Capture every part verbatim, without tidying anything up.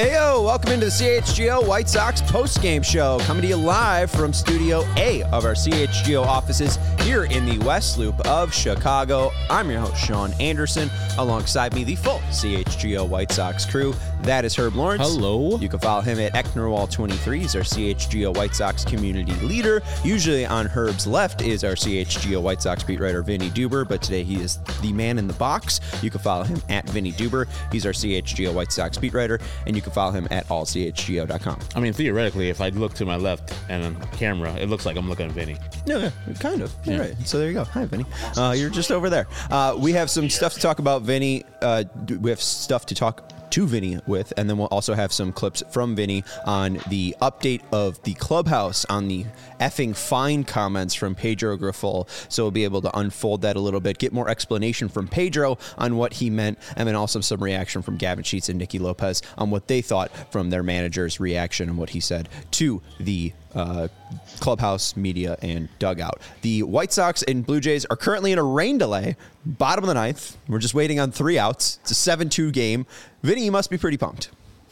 Heyo, welcome into the C H G O White Sox post-game show, coming to you live from Studio A of our C H G O offices here in the West Loop of Chicago. I'm your host, Sean Anderson. Alongside me, the full C H G O White Sox crew. That is Herb Lawrence. Hello. You can follow him at Ecknerwall twenty-three. He's our C H G O White Sox community leader. Usually on Herb's left is our C H G O White Sox beat writer, Vinny Duber, but today he is the man in the box. You can follow him at Vinny Duber. He's our C H G O White Sox beat writer, and you can follow him at all c h g o dot com. I mean, theoretically, if I look to my left and on camera, it looks like I'm looking at Vinny. No, yeah, kind of. You're yeah. right. So there you go. Hi, Vinny. Uh, you're just over there. Uh, we have some stuff to talk about, Vinny. Uh, we have stuff to talk to Vinny with, and then we'll also have some clips from Vinny on the update of the clubhouse on the effing fine comments from Pedro Grifol. So we'll be able to unfold that a little bit, get more explanation from Pedro on what he meant, and then also some reaction from Gavin Sheets and Nicky Lopez on what they thought from their manager's reaction and what he said to the uh, clubhouse, media, and dugout. The White Sox and Blue Jays are currently in a rain delay, bottom of the ninth. We're just waiting on three outs. It's a seven two game. Vinny, you must be pretty pumped.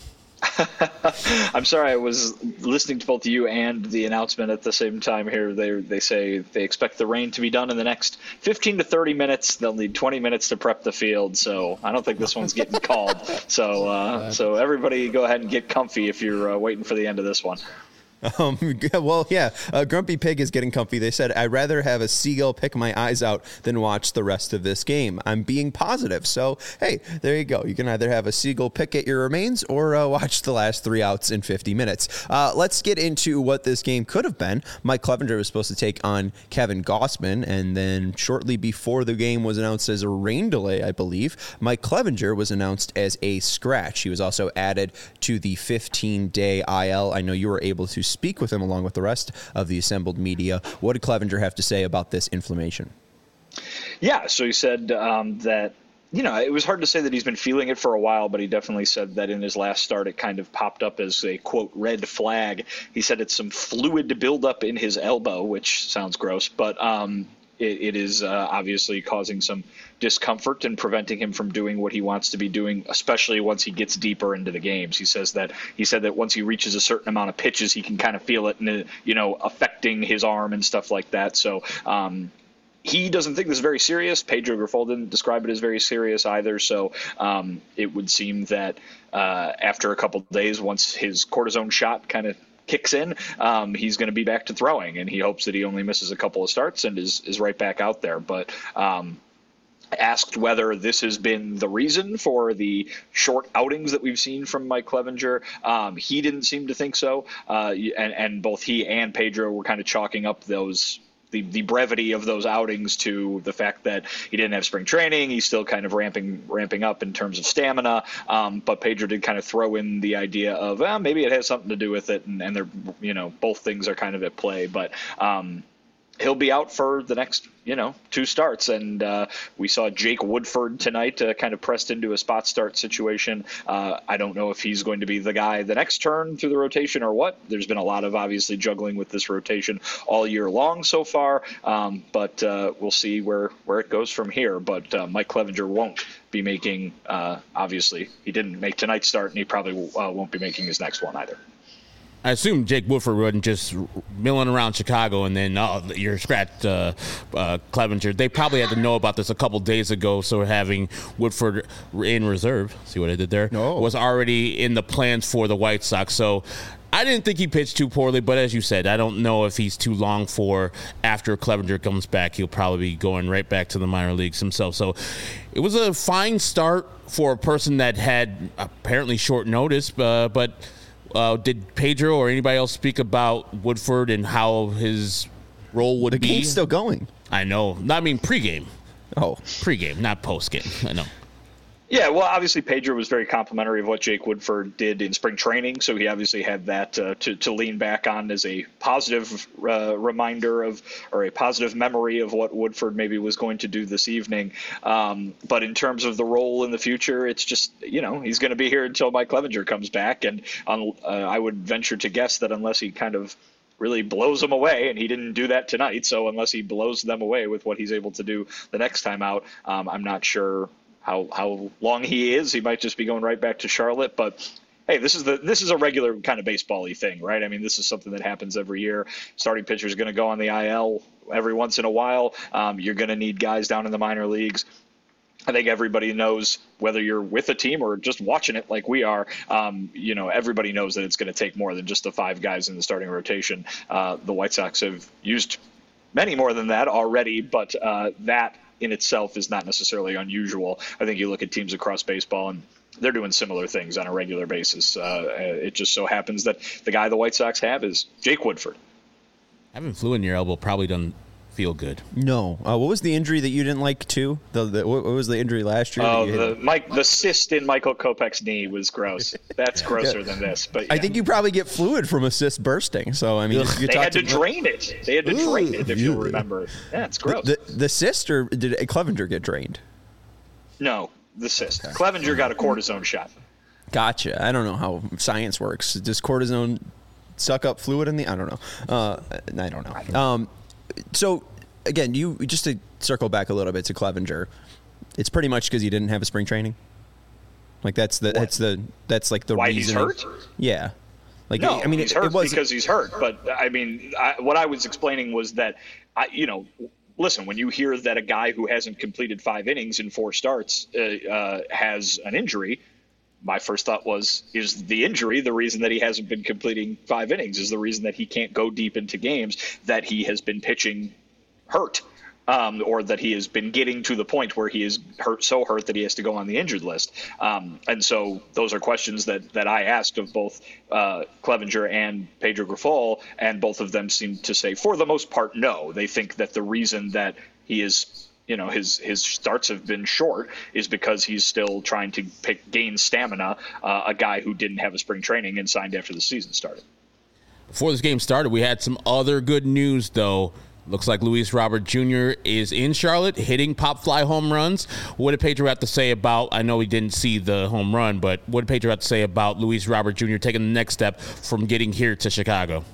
I'm sorry, I was listening to both you and the announcement at the same time here. They they say they expect the rain to be done in the next fifteen to thirty minutes. They'll need twenty minutes to prep the field, so I don't think this one's getting called. So uh, so everybody go ahead and get comfy if you're uh, waiting for the end of this one. Um, well, yeah, uh, Grumpy Pig is getting comfy. They said, I'd rather have a seagull pick my eyes out than watch the rest of this game. I'm being positive. So, hey, there you go. You can either have a seagull pick at your remains or uh, watch the last three outs in fifty minutes. Uh, let's get into what this game could have been. Mike Clevenger was supposed to take on Kevin Gausman, and then shortly before the game was announced as a rain delay, I believe, Mike Clevenger was announced as a scratch. He was also added to the fifteen-day I L. I know you were able to speak with him along with the rest of the assembled media. What did Clevenger have to say about this inflammation? Yeah, so he said um, that, you know, it was hard to say that he's been feeling it for a while, but he definitely said that in his last start, it kind of popped up as a, quote, red flag. He said it's some fluid buildup in his elbow, which sounds gross, but um, it, it is uh, obviously causing some discomfort and preventing him from doing what he wants to be doing, especially once he gets deeper into the games. He says that he said that once he reaches a certain amount of pitches, he can kind of feel it, and you know, affecting his arm and stuff like that. So um, he doesn't think this is very serious. Pedro Grifol didn't describe it as very serious either. So um, it would seem that uh, after a couple of days, once his cortisone shot kind of kicks in, um, he's going to be back to throwing, and he hopes that he only misses a couple of starts and is is right back out there. But um, asked whether this has been the reason for the short outings that we've seen from Mike Clevenger. Um, he didn't seem to think so. Uh, and, and both he and Pedro were kind of chalking up those the, the brevity of those outings to the fact that he didn't have spring training. He's still kind of ramping ramping up in terms of stamina. Um, but Pedro did kind of throw in the idea of, well, maybe it has something to do with it. And, and they're, you know, both things are kind of at play. But um, he'll be out for the next, you know, two starts. And uh, we saw Jake Woodford tonight uh, kind of pressed into a spot start situation. Uh, I don't know if he's going to be the guy the next turn through the rotation or what. There's been a lot of obviously juggling with this rotation all year long so far. Um, but uh, we'll see where, where it goes from here. But uh, Mike Clevenger won't be making, uh, obviously, he didn't make tonight's start, and he probably uh, won't be making his next one either. I assume Jake Woodford wasn't just milling around Chicago and then oh, you're scratched uh, uh, Clevenger. They probably had to know about this a couple days ago, so having Woodford in reserve, see what I did there, no. was already in the plans for the White Sox. So I didn't think he pitched too poorly, but as you said, I don't know if he's too long for after Clevenger comes back. He'll probably be going right back to the minor leagues himself. So it was a fine start for a person that had apparently short notice, uh, but Uh, did Pedro or anybody else speak about Woodford and how his role would the be? The game's still going. I know. I mean, pregame. Oh. Pregame, not postgame. I know. Yeah, well, obviously Pedro was very complimentary of what Jake Woodford did in spring training, so he obviously had that uh, to, to lean back on as a positive uh, reminder of, or a positive memory of what Woodford maybe was going to do this evening. Um, but in terms of the role in the future, it's just, you know, he's going to be here until Mike Clevenger comes back, and um, uh, I would venture to guess that unless he kind of really blows them away, and he didn't do that tonight, so unless he blows them away with what he's able to do the next time out, um, I'm not sure how how long he is. He might just be going right back to Charlotte, but hey, this is the this is a regular kind of baseball-y thing, right? I mean, this is something that happens every year. Starting pitcher is going to go on the I L every once in a while. Um, you're going to need guys down in the minor leagues. I think everybody knows, whether you're with a team or just watching it like we are, um, you know, everybody knows that it's going to take more than just the five guys in the starting rotation. Uh, the White Sox have used many more than that already, but uh, that in itself is not necessarily unusual. I think you look at teams across baseball and they're doing similar things on a regular basis. Uh, it just so happens that the guy the White Sox have is Jake Woodford. Having flu in your elbow probably doesn't feel good. No. Uh, what was the injury that you didn't like too? The, the what was the injury last year? Oh, the Mike, the cyst in Michael Kopech's knee was gross. That's grosser yeah. than this. But yeah. I think you probably get fluid from a cyst bursting. So I mean, you, you they had to, to drain it. They had to Ooh, drain it. If you remember, yeah, it's gross. The, the, the cyst, or did Clevenger get drained? No, the cyst. Okay. Clevenger got a cortisone shot. Gotcha. I don't know how science works. Does cortisone suck up fluid in the? I don't know. Uh, I don't know. Um, so. Again, you just to circle back a little bit to Clevenger, it's pretty much because he didn't have a spring training. Like that's the what? that's the that's like the why reason. Why he's hurt? Yeah. Like no, I mean, he's it, hurt it was, because he's hurt. But I mean, I, what I was explaining was that, I, you know, listen, when you hear that a guy who hasn't completed five innings in four starts uh, uh, has an injury, my first thought was, is the injury the reason that he hasn't been completing five innings? Is the reason that he can't go deep into games, that he has been pitching hurt, um, or that he has been getting to the point where he is hurt, so hurt that he has to go on the injured list. Um, and so those are questions that, that I asked of both uh, Clevenger and Pedro Grifol, and both of them seem to say, for the most part, no. They think that the reason that he is, you know, his his starts have been short is because he's still trying to pick, gain stamina, uh, a guy who didn't have a spring training and signed after the season started. Before this game started, we had some other good news, though. Looks like Luis Robert Junior is in Charlotte, hitting pop fly home runs. What did Pedro have to say about, I know he didn't see the home run, but what did Pedro have to say about Luis Robert Junior taking the next step from getting here to Chicago?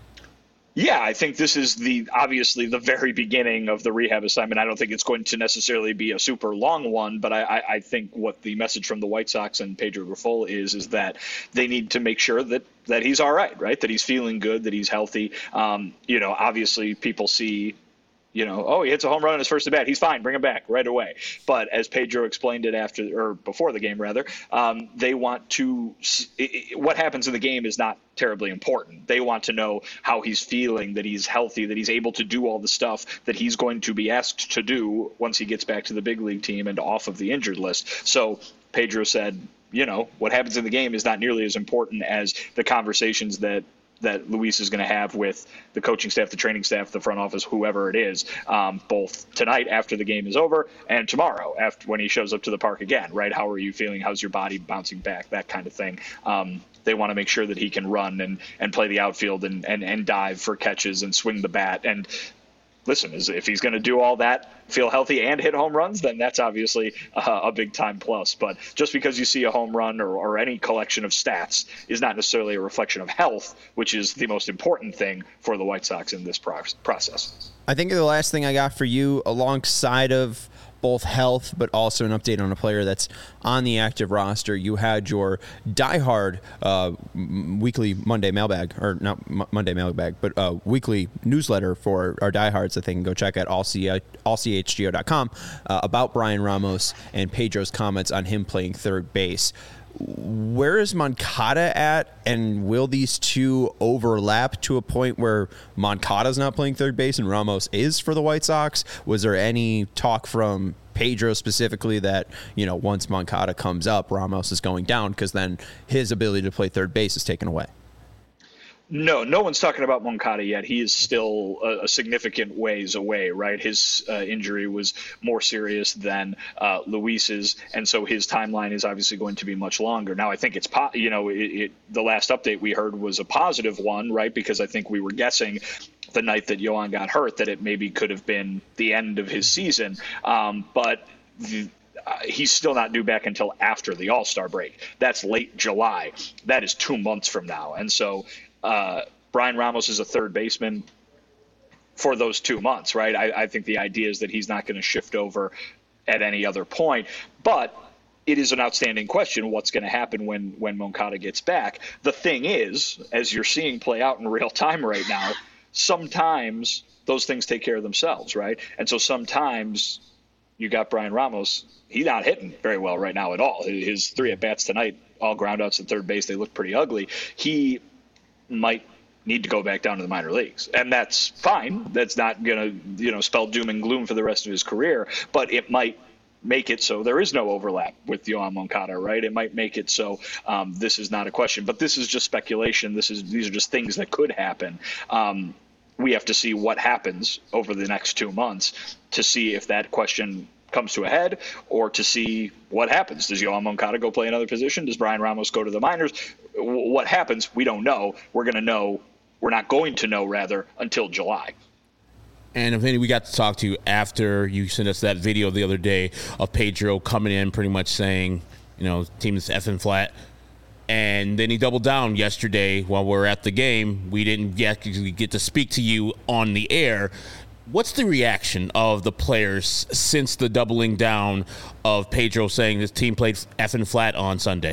Yeah, I think this is the obviously the very beginning of the rehab assignment. I don't think it's going to necessarily be a super long one, but I, I, I think what the message from the White Sox and Pedro Grifol is is that they need to make sure that that he's all right, right? That he's feeling good, that he's healthy. Um, you know, obviously people see, you know, oh, he hits a home run on his first at bat. He's fine. Bring him back right away. But as Pedro explained it after or before the game, rather, um, they want to it, what happens in the game is not terribly important. They want to know how he's feeling, that he's healthy, that he's able to do all the stuff that he's going to be asked to do once he gets back to the big league team and off of the injured list. So Pedro said, you know, what happens in the game is not nearly as important as the conversations that that Luis is going to have with the coaching staff, the training staff, the front office, whoever it is, um, both tonight after the game is over and tomorrow after when he shows up to the park again, right? How are you feeling? How's your body bouncing back? That kind of thing. Um, they want to make sure that he can run and, and play the outfield and, and, and dive for catches and swing the bat. And listen, if he's going to do all that, feel healthy and hit home runs, then that's obviously uh, a big time plus. But just because you see a home run or, or any collection of stats is not necessarily a reflection of health, which is the most important thing for the White Sox in this pro- process. I think the last thing I got for you, alongside of both health, but also an update on a player that's on the active roster. You had your diehard uh, weekly Monday mailbag, or not M- Monday mailbag, but uh, weekly newsletter for our diehards that they can go check at all c h g o dot com uh, about Brian Ramos and Pedro's comments on him playing third base. Where is Moncada at, and will these two overlap to a point where Moncada's not playing third base and Ramos is for the White Sox? Was there any talk from Pedro specifically that, you know, once Moncada comes up, Ramos is going down because then his ability to play third base is taken away? No, no one's talking about Moncada yet. He is still a, a significant ways away, right? His uh, injury was more serious than uh, Luis's, and so his timeline is obviously going to be much longer. Now, I think it's, po- you know, it, it, the last update we heard was a positive one, right? Because I think we were guessing the night that Yohan got hurt that it maybe could have been the end of his season, um, but the, Uh, he's still not due back until after the All-Star break. That's late July. That is two months from now. And so uh, Brian Ramos is a third baseman for those two months, right? I, I think the idea is that he's not going to shift over at any other point. But it is an outstanding question what's going to happen when when Moncada gets back. The thing is, as you're seeing play out in real time right now, sometimes those things take care of themselves, right? And so sometimes you got Brian Ramos. He's not hitting very well right now at all. His three at-bats tonight, all groundouts at third base, they look pretty ugly. He might need to go back down to the minor leagues, and that's fine. That's not going to, you know, spell doom and gloom for the rest of his career, but it might make it so there is no overlap with Yoan Moncada, right? It might make it so um, this is not a question, but this is just speculation. This is these are just things that could happen. Um, we have to see what happens over the next two months to see if that question comes to a head, or to see what happens. Does Yoan Moncada go play another position? Does Brian Ramos go to the minors? What happens? We don't know. We're going to know. We're not going to know, rather, until July. And Vinny, we got to talk to you after you sent us that video the other day of Pedro coming in pretty much saying, you know, team is effing flat. And then he doubled down yesterday while we were at the game. We didn't get, get to speak to you on the air. What's the reaction of the players since the doubling down of Pedro saying this team played effing flat on Sunday?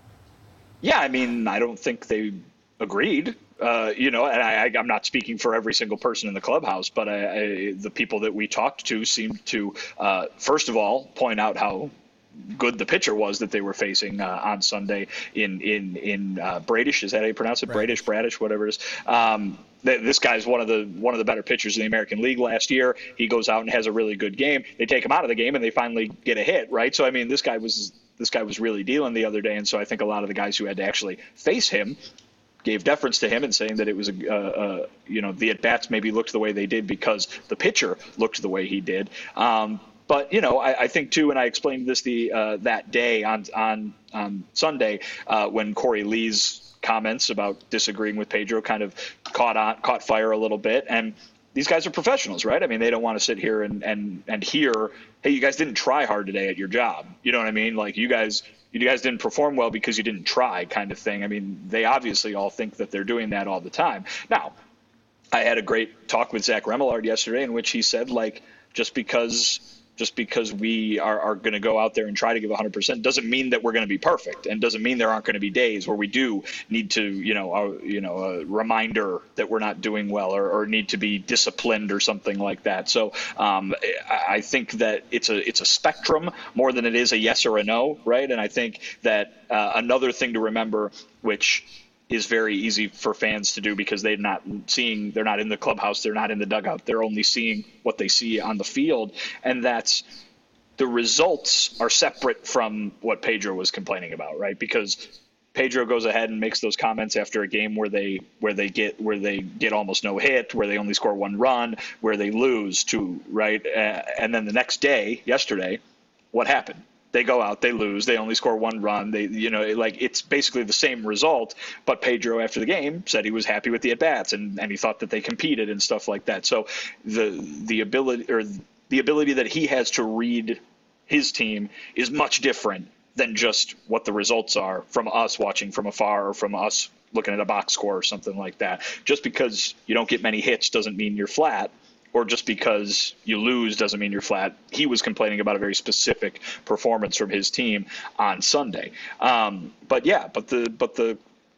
Yeah, I mean, I don't think they agreed. Uh, you know, and I, I'm not speaking for every single person in the clubhouse, but I, I, the people that we talked to seemed to, uh, first of all, point out how good the pitcher was that they were facing uh, on Sunday in in in uh, Bradish. Is that how you pronounce it? Bradish, Bradish, whatever it is. Um, th- this guy's one of the one of the better pitchers in the American League last year. He goes out and has a really good game. They take him out of the game and they finally get a hit, right? So I mean, this guy was this guy was really dealing the other day, and so I think a lot of the guys who had to actually face him gave deference to him and saying that it was a, uh, uh, you know, the at-bats maybe looked the way they did because the pitcher looked the way he did. Um, but, you know, I, I think, too, and I explained this the uh, that day on on, on Sunday uh, when Corey Lee's comments about disagreeing with Pedro kind of caught on, caught fire a little bit. And these guys are professionals, right? I mean, they don't want to sit here and, and, and hear, hey, you guys didn't try hard today at your job. You know what I mean? Like, you guys – you guys didn't perform well because you didn't try, kind of thing. I mean, they obviously all think that they're doing that all the time. Now, I had a great talk with Zach Remillard yesterday in which he said, like, just because just because we are, are going to go out there and try to give one hundred percent doesn't mean that we're going to be perfect, and doesn't mean there aren't going to be days where we do need to, you know, a, you know, a reminder that we're not doing well, or, or need to be disciplined or something like that. So um, I think that it's a it's a spectrum more than it is a yes or a no, right? And I think that uh, another thing to remember, which is very easy for fans to do because they're not seeing, they're not in the clubhouse, they're not in the dugout, they're only seeing what they see on the field, and that's the results are separate from what Pedro was complaining about, right? Because Pedro goes ahead and makes those comments after a game where they where they get where they get almost no hit, where they only score one run, where they lose two, right? Uh, and then the next day, yesterday, what happened? They go out, they lose, they only score one run. They, you know, like it's basically the same result. But Pedro, after the game, said he was happy with the at bats and, and he thought that they competed and stuff like that. So the the ability or the ability that he has to read his team is much different than just what the results are from us watching from afar or from us looking at a box score or something like that. Just because you don't get many hits doesn't mean you're flat. Or just because you lose doesn't mean you're flat. He was complaining about a very specific performance from his team on Sunday. Um, but yeah, but the but the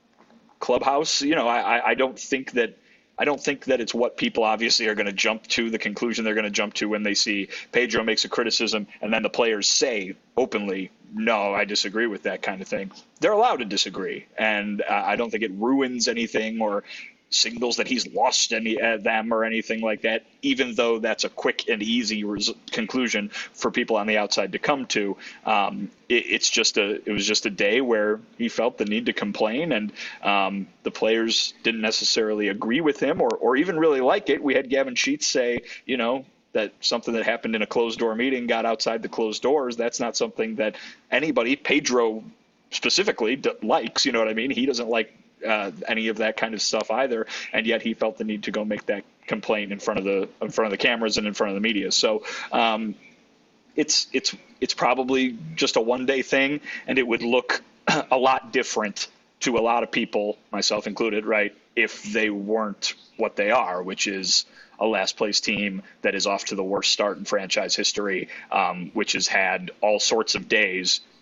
clubhouse, you know, I, I don't think that I don't think that it's what people obviously are going to jump to, the conclusion they're going to jump to when they see Pedro makes a criticism and then the players say openly, no, I disagree with that kind of thing. They're allowed to disagree, and uh, I don't think it ruins anything or signals that he's lost any uh, them or anything like that, even though that's a quick and easy res- conclusion for people on the outside to come to. Um, it, it's just a it was just a day where he felt the need to complain, and um, the players didn't necessarily agree with him or or even really like it. We had Gavin Sheets say, you know, that something that happened in a closed door meeting got outside the closed doors. That's not something that anybody, Pedro specifically, d- likes. You know what I mean? He doesn't like Uh, any of that kind of stuff either, and yet he felt the need to go make that complaint in front of the in front of the cameras and in front of the media. So um, it's it's it's probably just a one day thing, and it would look a lot different to a lot of people, myself included, right, if they weren't what they are, which is a last place team that is off to the worst start in franchise history, um, which has had all sorts of days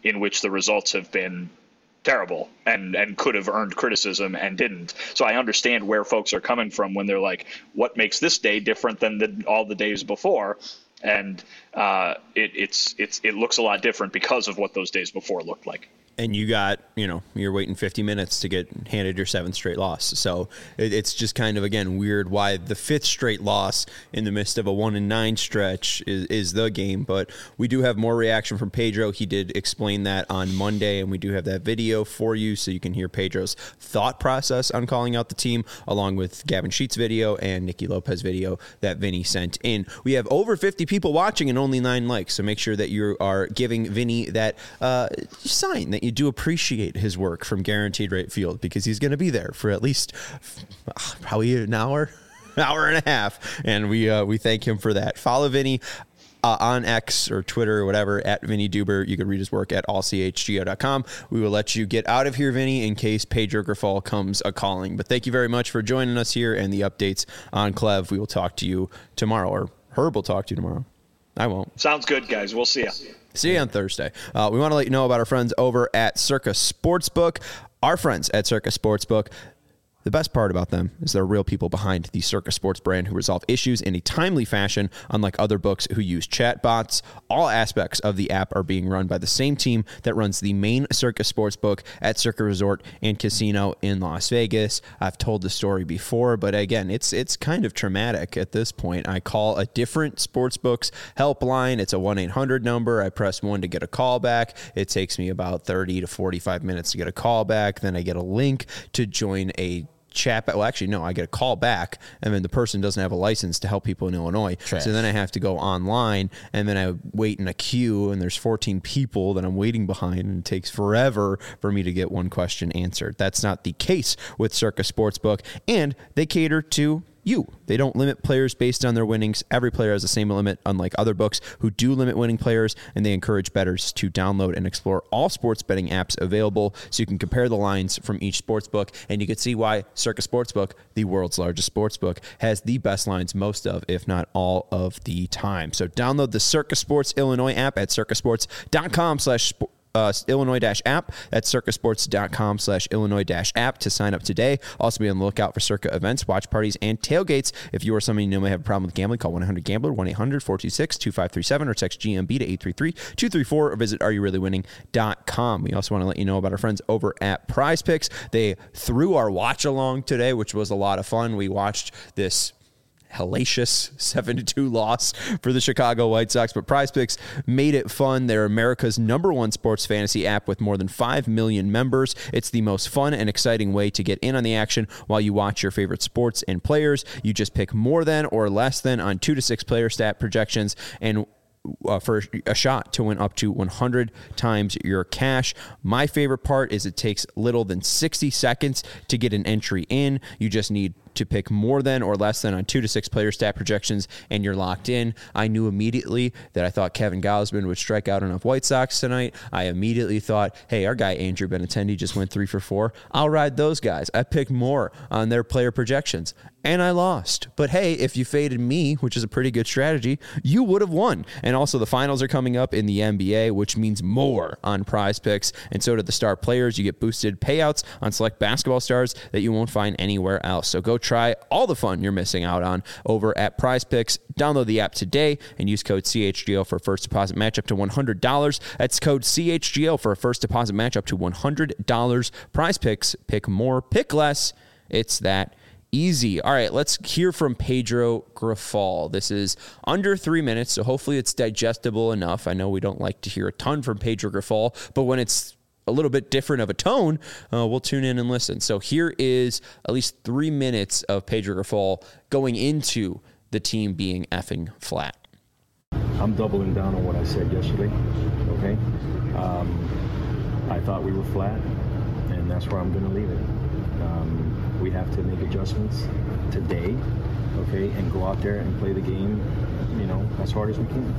in which the results have been terrible and, and could have earned criticism and didn't. So I understand where folks are coming from when they're like, what makes this day different than the, all the days before? And uh, it, it's it's it looks a lot different because of what those days before looked like. And you got, you know, you're waiting fifty minutes to get handed your seventh straight loss. So it, it's just kind of, again, weird why the fifth straight loss in the midst of a one and nine stretch is, is the game. But we do have more reaction from Pedro. He did explain that on Monday, and we do have that video for you so you can hear Pedro's thought process on calling out the team, along with Gavin Sheets' video and Nicky Lopez video that Vinny sent in. We have over fifty people watching and only nine likes, so make sure that you are giving Vinny that uh, sign that you do appreciate his work from Guaranteed Rate Field, because he's going to be there for at least uh, probably an hour, hour and a half, and we uh, we thank him for that. Follow Vinny uh, on X or Twitter or whatever at Vinny Duber. You can read his work at all c h g o dot com. We will let you get out of here, Vinny, in case Pedro Grifol comes a calling. But thank you very much for joining us here and the updates on Clev. We will talk to you tomorrow, or Herb will talk to you tomorrow. I won't. Sounds good, guys. We'll see you. See you on Thursday. Uh, we want to let you know about our friends over at Circa Sportsbook. Our friends at Circa Sportsbook, the best part about them is they're real people behind the Circa Sports brand who resolve issues in a timely fashion, unlike other books who use chatbots. All aspects of the app are being run by the same team that runs the main Circa Sportsbook at Circa Resort and Casino in Las Vegas. I've told the story before, but again, it's it's kind of traumatic at this point. I call a different sportsbook's helpline. It's a one eight hundred number. I press one to get a call back. It takes me about thirty to forty-five minutes to get a call back. Then I get a link to join a chat. Well, actually, no, I get a call back, and then the person doesn't have a license to help people in Illinois. Trash. So then I have to go online, and then I wait in a queue, and there's fourteen people that I'm waiting behind, and it takes forever for me to get one question answered. That's not the case with Circa Sportsbook, and they cater to you. They don't limit players based on their winnings. Every player has the same limit, unlike other books who do limit winning players, and they encourage bettors to download and explore all sports betting apps available so you can compare the lines from each sports book, and you can see why Circa Sportsbook, the world's largest sports book, has the best lines most of, if not all of the time. So download the Circa Sports Illinois app at circasports.com slash Uh, Illinois-app. That's circasports.com slash Illinois-app to sign up today. Also be on the lookout for Circa events, watch parties, and tailgates. If you or someone you know may have a problem with gambling, call one eight hundred gambler, one eight hundred four two six two five three seven, or text G M B to eight three three two three four, or visit are you really winning dot com. We also want to let you know about our friends over at Prize Picks. They threw our watch along today, which was a lot of fun. We watched this hellacious seven to two loss for the Chicago White Sox, but Prize Picks made it fun. They're America's number one sports fantasy app with more than five million members. It's the most fun and exciting way to get in on the action while you watch your favorite sports and players. You just pick more than or less than on two to six player stat projections, and Uh, for a shot to win up to one hundred times your cash. My favorite part is it takes little than sixty seconds to get an entry in. You just need to pick more than or less than on two to six player stat projections, and you're locked in. I knew immediately that I thought Kevin Gausman would strike out enough White Sox tonight. I immediately thought, hey, our guy Andrew Benintendi just went three for four. I'll ride those guys. I picked more on their player projections, and I lost. But hey, if you faded me, which is a pretty good strategy, you would have won. And also the finals are coming up in the N B A, which means more on Prize Picks, and so do the star players. You get boosted payouts on select basketball stars that you won't find anywhere else. So go try all the fun you're missing out on over at Prize Picks. Download the app today and use code C H G O for a first deposit match up to one hundred dollars. That's code C H G O for a first deposit match up to one hundred dollars. Prize Picks, pick more, pick less. It's that easy. All right, let's hear from Pedro Grifol. This is under three minutes, so hopefully it's digestible enough. I know we don't like to hear a ton from Pedro Grifol, but when it's a little bit different of a tone, uh, we'll tune in and listen. So here is at least three minutes of Pedro Grifol going into the team being effing flat. I'm doubling down on what I said yesterday, okay? Um, I thought we were flat, and that's where I'm going to leave it. Um, we have to make adjustments today, okay, and go out there and play the game, you know, as hard as we can.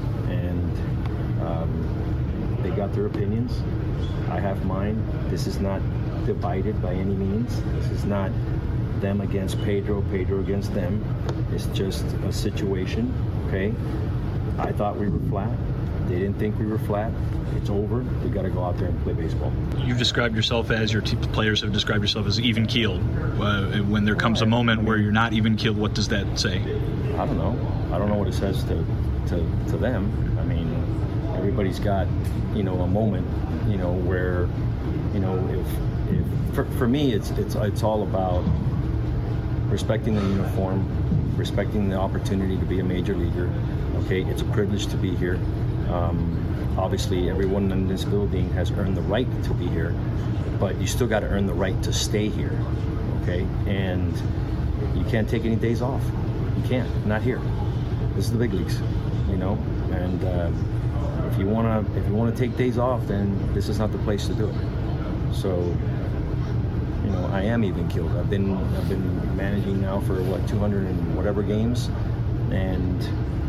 And um, they got their opinions. I have mine. This is not divided by any means. This is not them against Pedro, Pedro against them. It's just a situation, okay? I thought we were flat. They didn't think we were flat. It's over. We got to go out there and play baseball. You've described yourself as, your t- players have described yourself as even-keeled. Uh, when there comes a moment where you're not even-keeled, what does that say? I don't know. I don't know what it says to, to, to them. I mean, everybody's got, you know, a moment, you know, where, you know, if, if for, for me, it's it's it's all about respecting the uniform, respecting the opportunity to be a major leaguer. Okay, it's a privilege to be here. Um, obviously, everyone in this building has earned the right to be here, but you still got to earn the right to stay here. Okay, and you can't take any days off. You can't. Not here. This is the big leagues, you know. And uh, if you wanna, if you wanna take days off, then this is not the place to do it. So, you know, I am even killed. I've been, I've been managing now for what two hundred and whatever games, and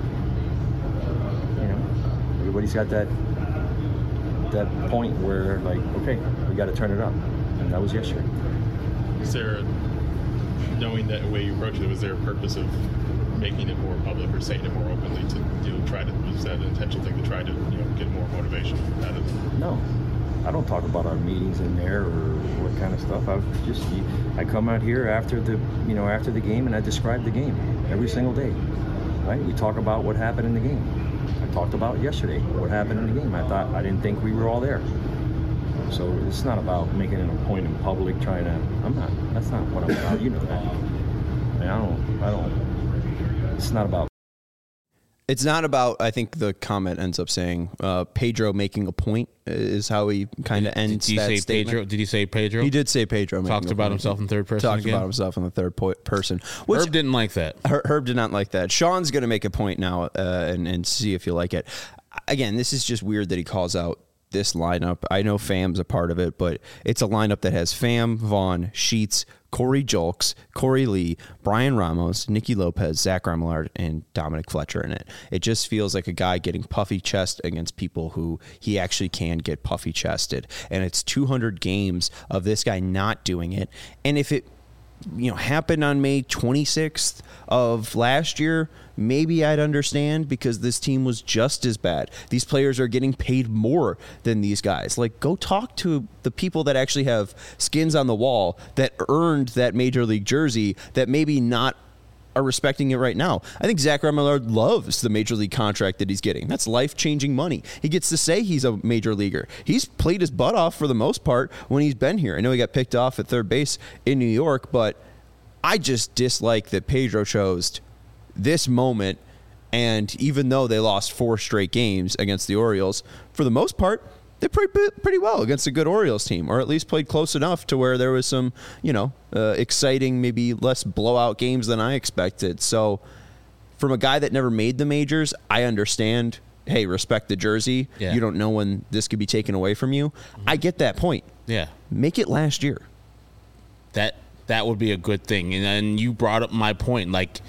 you know, everybody's got that that point where like, okay, we got to turn it up, and that was yesterday. Is there, a, knowing that way you approach it, was there a purpose of making it more public or saying it more openly to, you know, try to, was that an intentional thing to try to, you know, get more motivation out of it? No, I don't talk about our meetings in there or what kind of stuff. I just, I come out here after the, you know, after the game and I describe the game every single day, right? We talk about what happened in the game. I talked about yesterday what happened in the game. I thought, I didn't think we were all there. So it's not about making it a point in public, trying to, I'm not, that's not what I'm about, you know that. I mean, I don't, I don't, it's not about. It's not about, I think the comment ends up saying, uh, Pedro making a point is how he kind of ends did that say statement. Pedro? Did he say Pedro? He did say Pedro. Talked about himself in third person Talked again? about himself in the third po- person. Which, Herb didn't like that. Her- Herb did not like that. Sean's going to make a point now uh, and, and see if you like it. Again, this is just weird that he calls out this lineup. I know Fam's a part of it, but it's a lineup that has Fam, Vaughn, Sheets, Corey Julks, Corey Lee, Brian Ramos, Nicky Lopez, Zach Remillard, and Dominic Fletcher in it. It just feels like a guy getting puffy chest against people who he actually can get puffy chested. And it's two hundred games of this guy not doing it. And if it, you know, happened on May twenty-sixth of last year, maybe I'd understand because this team was just as bad. These players are getting paid more than these guys. Like, go talk to the people that actually have skins on the wall that earned that major league jersey that maybe not are respecting it right now. I think Zach Remillard loves the major league contract that he's getting. That's life-changing money. He gets to say he's a major leaguer. He's played his butt off for the most part when he's been here. I know he got picked off at third base in New York, but I just dislike that Pedro chose this moment, and even though they lost four straight games against the Orioles, for the most part, they played pretty well against a good Orioles team, or at least played close enough to where there was some, you know, uh, exciting, maybe less blowout games than I expected. So from a guy that never made the majors, I understand, hey, respect the jersey. Yeah. You don't know when this could be taken away from you. Mm-hmm. I get that point. Yeah. Make it last year. That that would be a good thing. And then you brought up my point, like,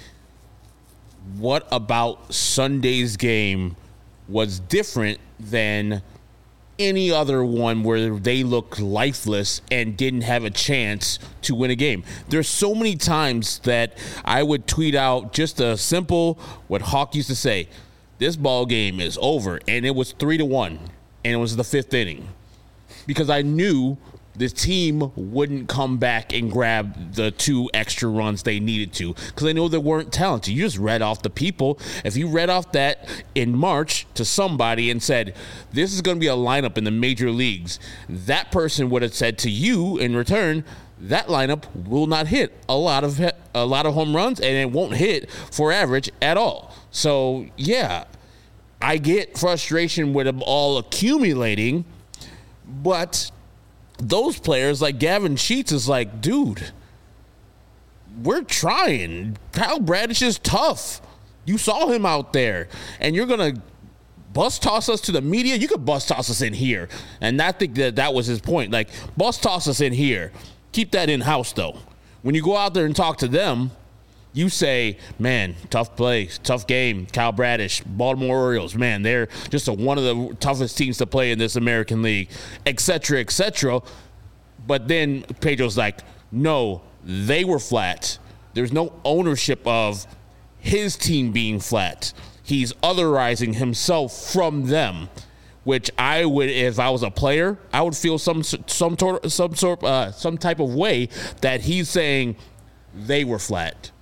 what about Sunday's game was different than any other one where they looked lifeless and didn't have a chance to win a game? There's so many times that I would tweet out just a simple, what Hawk used to say, this ball game is over, and it was three to one, and it was the fifth inning, because I knew this team wouldn't come back and grab the two extra runs they needed to, because they know they weren't talented. You just read off the people. If you read off that in March to somebody and said, this is going to be a lineup in the major leagues, that person would have said to you in return, that lineup will not hit a lot of a lot of home runs, and it won't hit for average at all. So, yeah, I get frustration with them all accumulating, but those players like Gavin Sheets is like, dude, we're trying. Kyle Bradish is tough. You saw him out there, and you're going to bus toss us to the media? You could bus toss us in here. And I think that that was his point. Like, bus toss us in here. Keep that in-house, though. When you go out there and talk to them, you say, man, tough play, tough game, Kyle Bradish, Baltimore Orioles, man, they're just a, one of the toughest teams to play in this American League, et cetera, et cetera. But then Pedro's like, no, they were flat. There's no ownership of his team being flat. he's otherizing himself from them, which I would, if I was a player, I would feel some some tor- some sort uh, some type of way that he's saying they were flat,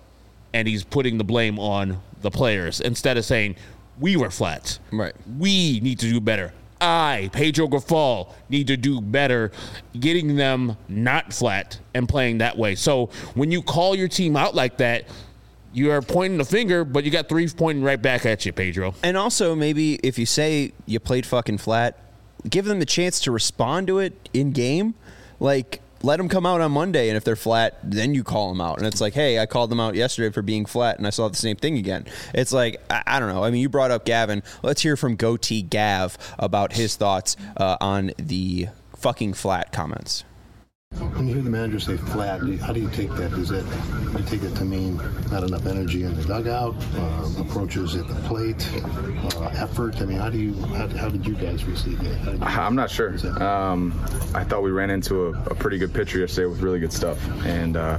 and he's putting the blame on the players instead of saying we were flat. Right. We need to do better. I, Pedro Grifol, need to do better getting them not flat and playing that way. So when you call your team out like that, you are pointing the finger, but you got three pointing right back at you, Pedro. And also, maybe if you say you played fucking flat, give them the chance to respond to it in game. Like, let them come out on Monday, and if they're flat, then you call them out. And it's like, hey, I called them out yesterday for being flat, and I saw the same thing again. It's like, I, I don't know. I mean, you brought up Gavin. Let's hear from Goatee Gav about his thoughts uh, on the fucking flat comments. When you hear the manager say flat, how do you take that? Does that do you take it to mean not enough energy in the dugout, uh, approaches at the plate, uh, effort? I mean, how do you how, how did you guys receive that? You I'm not sure. Um, I thought we ran into a, a pretty good pitcher yesterday with really good stuff, and uh,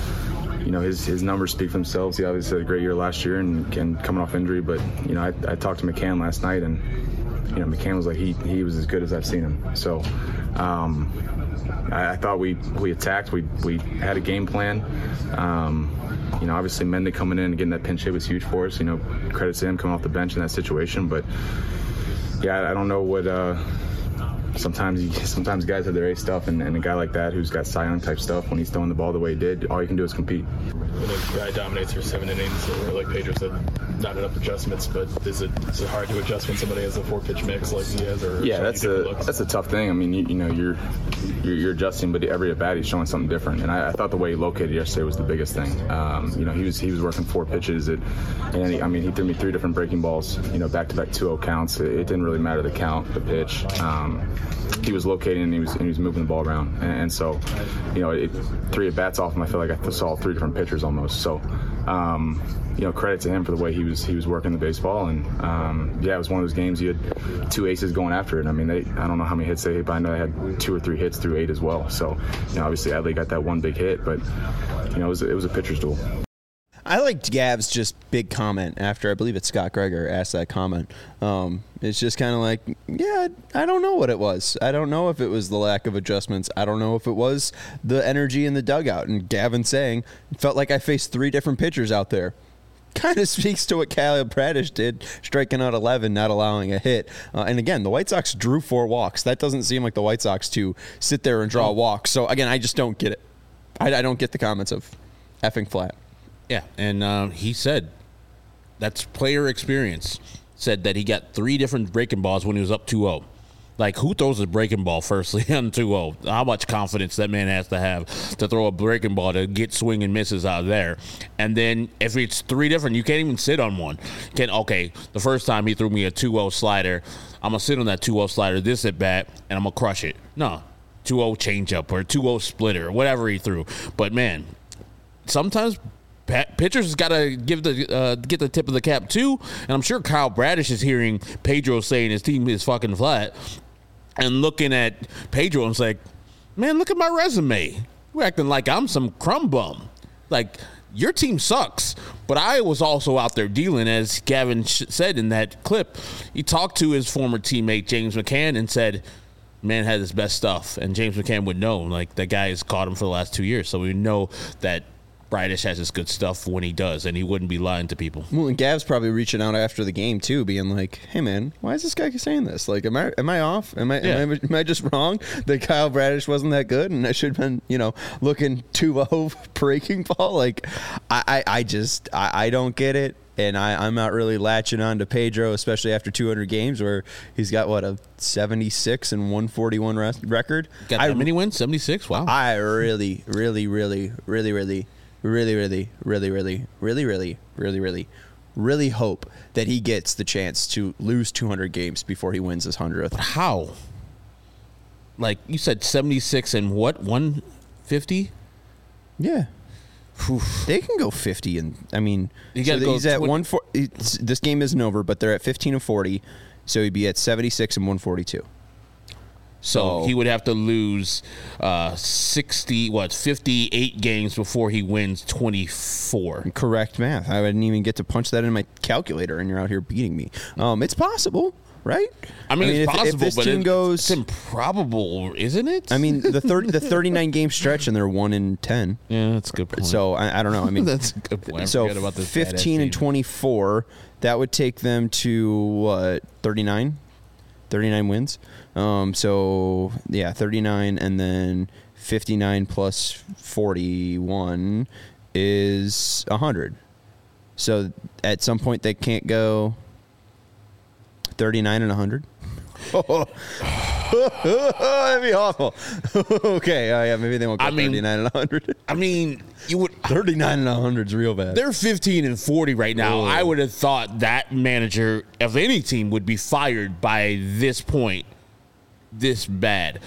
you know his his numbers speak for themselves. He obviously had a great year last year and, and coming off injury, but you know I, I talked to McCann last night, and you know McCann was like he he was as good as I've seen him. So. Um, I, I thought we, we attacked. We we had a game plan. Um, you know, obviously Mende coming in and getting that pinch hit was huge for us. You know, credit to him coming off the bench in that situation. But yeah, I, I don't know what. Uh, sometimes you, sometimes guys have their A stuff, and, and a guy like that who's got Cy Young type stuff, when he's throwing the ball the way he did, all you can do is compete. When a guy dominates for seven innings, or like Pedro said, not enough adjustments, but is it is it hard to adjust when somebody has a four pitch mix like he has? Or yeah, that's a looks? that's a tough thing. I mean, you, you know, you're, you're you're adjusting, but every at bat he's showing something different. And I, I thought the way he located yesterday was the biggest thing. Um, you know, he was he was working four pitches, at, and he, I mean, he threw me three different breaking balls. You know, back to back two oh counts. It, it didn't really matter the count, the pitch. Um, he was locating and he was and he was moving the ball around, and, and so, you know, it, three at bats off him, I feel like I saw three different pitchers almost. So. Um, you know, credit to him for the way he was he was working the baseball, and um, yeah, it was one of those games you had two aces going after it. I mean, they I don't know how many hits they hit, but I know they had two or three hits through eight as well. So, you know, obviously Adley got that one big hit, but you know, it was it was a pitcher's duel. I liked Gav's just big comment after, I believe it's Scott Gregor asked that comment. Um, it's just kind of like, yeah, I don't know what it was. I don't know if it was the lack of adjustments. I don't know if it was the energy in the dugout. And Gavin saying, it felt like I faced three different pitchers out there. Kind of speaks to what Kyle Bradish did, striking out eleven, not allowing a hit. Uh, and again, the White Sox drew four walks. That doesn't seem like the White Sox to sit there and draw walks. So again, I just don't get it. I, I don't get the comments of effing flat. Yeah, and uh, he said that's player experience. Said that he got three different breaking balls when he was up two oh. Like, who throws a breaking ball firstly on two oh? How much confidence that man has to have to throw a breaking ball to get swing and misses out of there. And then if it's three different, you can't even sit on one. Can okay, the first time he threw me a two oh slider, I'm going to sit on that two oh slider this at bat, and I'm going to crush it. No, two oh changeup or two oh splitter or whatever he threw. But, man, sometimes – pitchers got to give the uh, get the tip of the cap too, and I'm sure Kyle Bradish is hearing Pedro saying his team is fucking flat, and looking at Pedro and it's like, man, look at my resume. We're acting like I'm some crumb bum. Like, your team sucks. But I was also out there dealing, as Gavin sh- said in that clip. He talked to his former teammate James McCann and said, man had his best stuff, and James McCann would know. Like, that guy has caught him for the last two years, so we know that Bradish has his good stuff when he does, and he wouldn't be lying to people. Well, and Gav's probably reaching out after the game too, being like, "Hey, man, why is this guy saying this? Like, am I am I off? Am I, yeah. am I am I just wrong that Kyle Bradish wasn't that good, and I should have been, you know, looking two oh breaking ball? Like, I I, I just I, I don't get it." And I, I'm not really latching on to Pedro, especially after two hundred games, where he's got, what, a seventy-six and one forty-one res- record. Got that I, many wins? seventy-six? Wow. I really, really, really, really, really, really, really, really, really, really, really, really, really, really hope that he gets the chance to lose two hundred games before he wins his hundredth. How? Like, you said seventy-six and what, one fifty? Yeah. Oof. They can go fifty, and I mean, you so go he's at one. This game isn't over, but they're at fifteen and forty, so he'd be at seventy-six and one forty-two. So Oh. he would have to lose uh, sixty, what, fifty-eight games before he wins twenty-four. Correct math. I didn't even get to punch that in my calculator, and you're out here beating me. Um, it's possible, right? I mean, it's if, possible, if this but team it, goes, it's improbable, isn't it? I mean, the thirty, the thirty-nine game stretch, and they're one in ten. Yeah, that's a good point. So I, I don't know. I mean, that's a good point. I so forget about this fifteen and twenty-four. That would take them to what? thirty-nine. thirty-nine wins. Um, so yeah, thirty-nine, and then fifty-nine plus forty-one is one hundred. So at some point they can't go thirty-nine and one hundred. Oh, that'd be awful. Okay, uh, yeah, maybe they won't go I mean- thirty-nine and one hundred. I mean, you would. thirty-nine and one hundred is real bad. They're fifteen and forty right now. Oh. I would have thought that manager of any team would be fired by this point, this bad.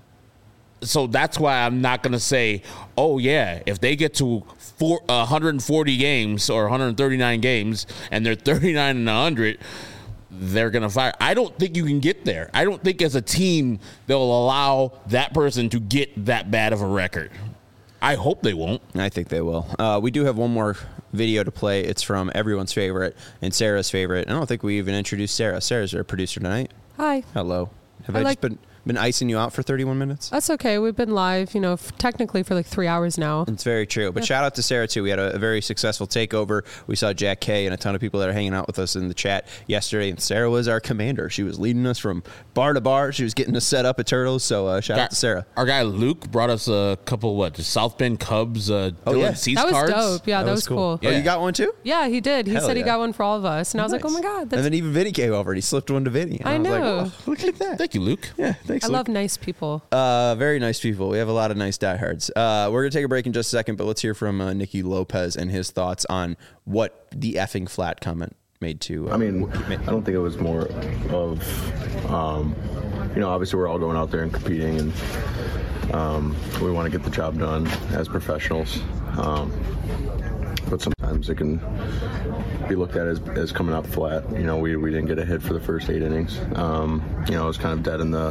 So that's why I'm not going to say, oh, yeah, if they get to four, one hundred forty games or one hundred thirty-nine games and they're thirty-nine and one hundred, they're going to fire. I don't think you can get there. I don't think as a team they'll allow that person to get that bad of a record. I hope they won't. I think they will. Uh, we do have one more video to play. It's from everyone's favorite and Sarah's favorite. I don't think we even introduced Sarah. Sarah's our producer tonight. Hi. Hello. Have I I, like- just been been icing you out for thirty-one minutes? That's okay. We've been live, you know, f- technically for like three hours now. It's very true. But shout out to Sarah, too. We had a, a very successful takeover. We saw Jack Kay and a ton of people that are hanging out with us in the chat yesterday. And Sarah was our commander. She was leading us from bar to bar. She was getting us set up at Turtles. So uh, shout Guy- out to Sarah. Our guy Luke brought us a couple, what, South Bend Cubs uh, Oh, Dylan yeah. Cease That was cards. dope. Yeah, that, was cool. Oh, you got one, too? Yeah, he did. He Hell said he yeah. got one for all of us. And I was like, oh my Nice. God. And That's, then even Vinny came over and he slipped one to Vinny. And I I, was like, know. "Wow, look at that. Thank you, Luke. Yeah, thanks, I Luke. love nice people. Uh, very nice people. We have a lot of nice diehards. Uh, we're going to take a break in just a second, but let's hear from uh, Nicky Lopez and his thoughts on what the effing flat comment made to. Uh, I mean, I don't think it was more of, um, you know, obviously we're all going out there and competing, and um, we want to get the job done as professionals. Um, but sometimes it can be looked at as, as coming out flat. You know, we, we didn't get a hit for the first eight innings. Um, you know, it was kind of dead in the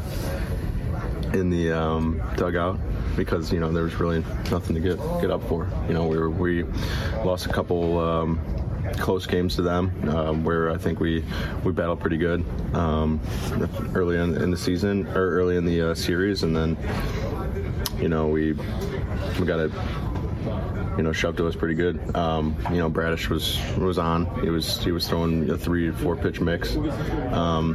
in the um, dugout because, you know, there was really nothing to get get up for. You know, we were, we lost a couple um, close games to them um, where I think we we battled pretty good um, early in, in the season or early in the uh, series, and then, you know, we we got it, you know, shoved to us pretty good. Um, you know, Bradish was was on. He was he was throwing a three four pitch mix, um,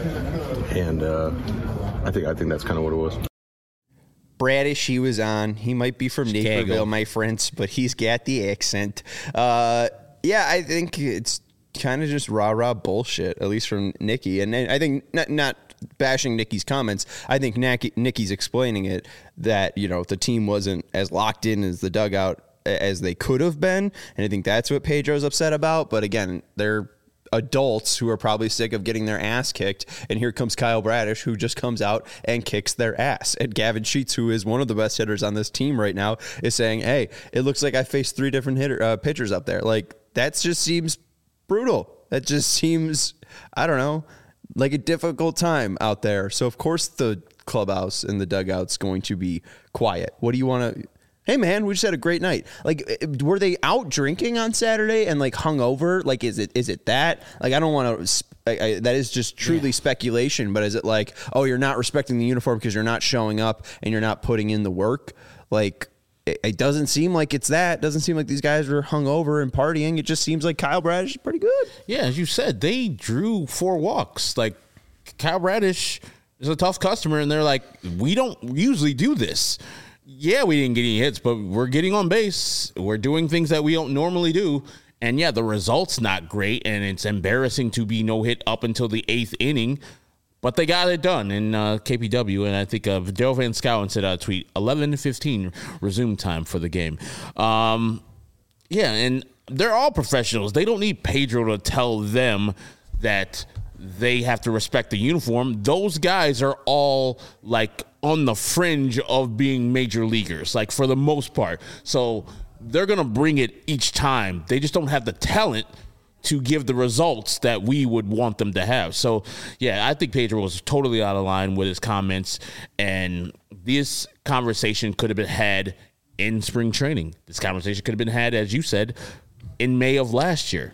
and uh, I think I think that's kind of what it was. Bradish, he was on. He might be from Chicago. Naperville, my friends, but he's got the accent. Uh, yeah, I think it's kind of just rah-rah bullshit, at least from Nicky. And I think not, not bashing Nicky's comments. I think Nicky's explaining it that, you know, the team wasn't as locked in as the dugout as they could have been. And I think that's what Pedro's upset about. But again, they're adults who are probably sick of getting their ass kicked, and here comes Kyle Bradish, who just comes out and kicks their ass. And Gavin Sheets, who is one of the best hitters on this team right now, is saying, hey, it looks like I faced three different hitter, uh, pitchers up there. Like, that just seems brutal. That just seems, I don't know, like a difficult time out there. So, of course, the clubhouse and the dugout's going to be quiet. What do you want to... Hey, man, we just had a great night. Like, were they out drinking on Saturday and, like, hungover? Like, is it is it that? Like, I don't want to... That is just truly yeah. speculation, but is it like, oh, you're not respecting the uniform because you're not showing up and you're not putting in the work? Like, it, it doesn't seem like it's that. It doesn't seem like these guys are hungover and partying. It just seems like Kyle Bradish is pretty good. Yeah, as you said, they drew four walks. Like, Kyle Bradish is a tough customer, and they're like, we don't usually do this. Yeah, we didn't get any hits, but we're getting on base. We're doing things that we don't normally do. And, yeah, the result's not great, and it's embarrassing to be no-hit up until the eighth inning. But they got it done in uh, K P W, and I think uh, Dale Van Scowen said a tweet, eleven fifteen resume time for the game. Um, yeah, and they're all professionals. They don't need Pedro to tell them that they have to respect the uniform. Those guys are all, like, on the fringe of being major leaguers, like, for the most part. So they're going to bring it each time. They just don't have the talent to give the results that we would want them to have. So, yeah, I think Pedro was totally out of line with his comments, and this conversation could have been had in spring training. This conversation could have been had, as you said, in May of last year.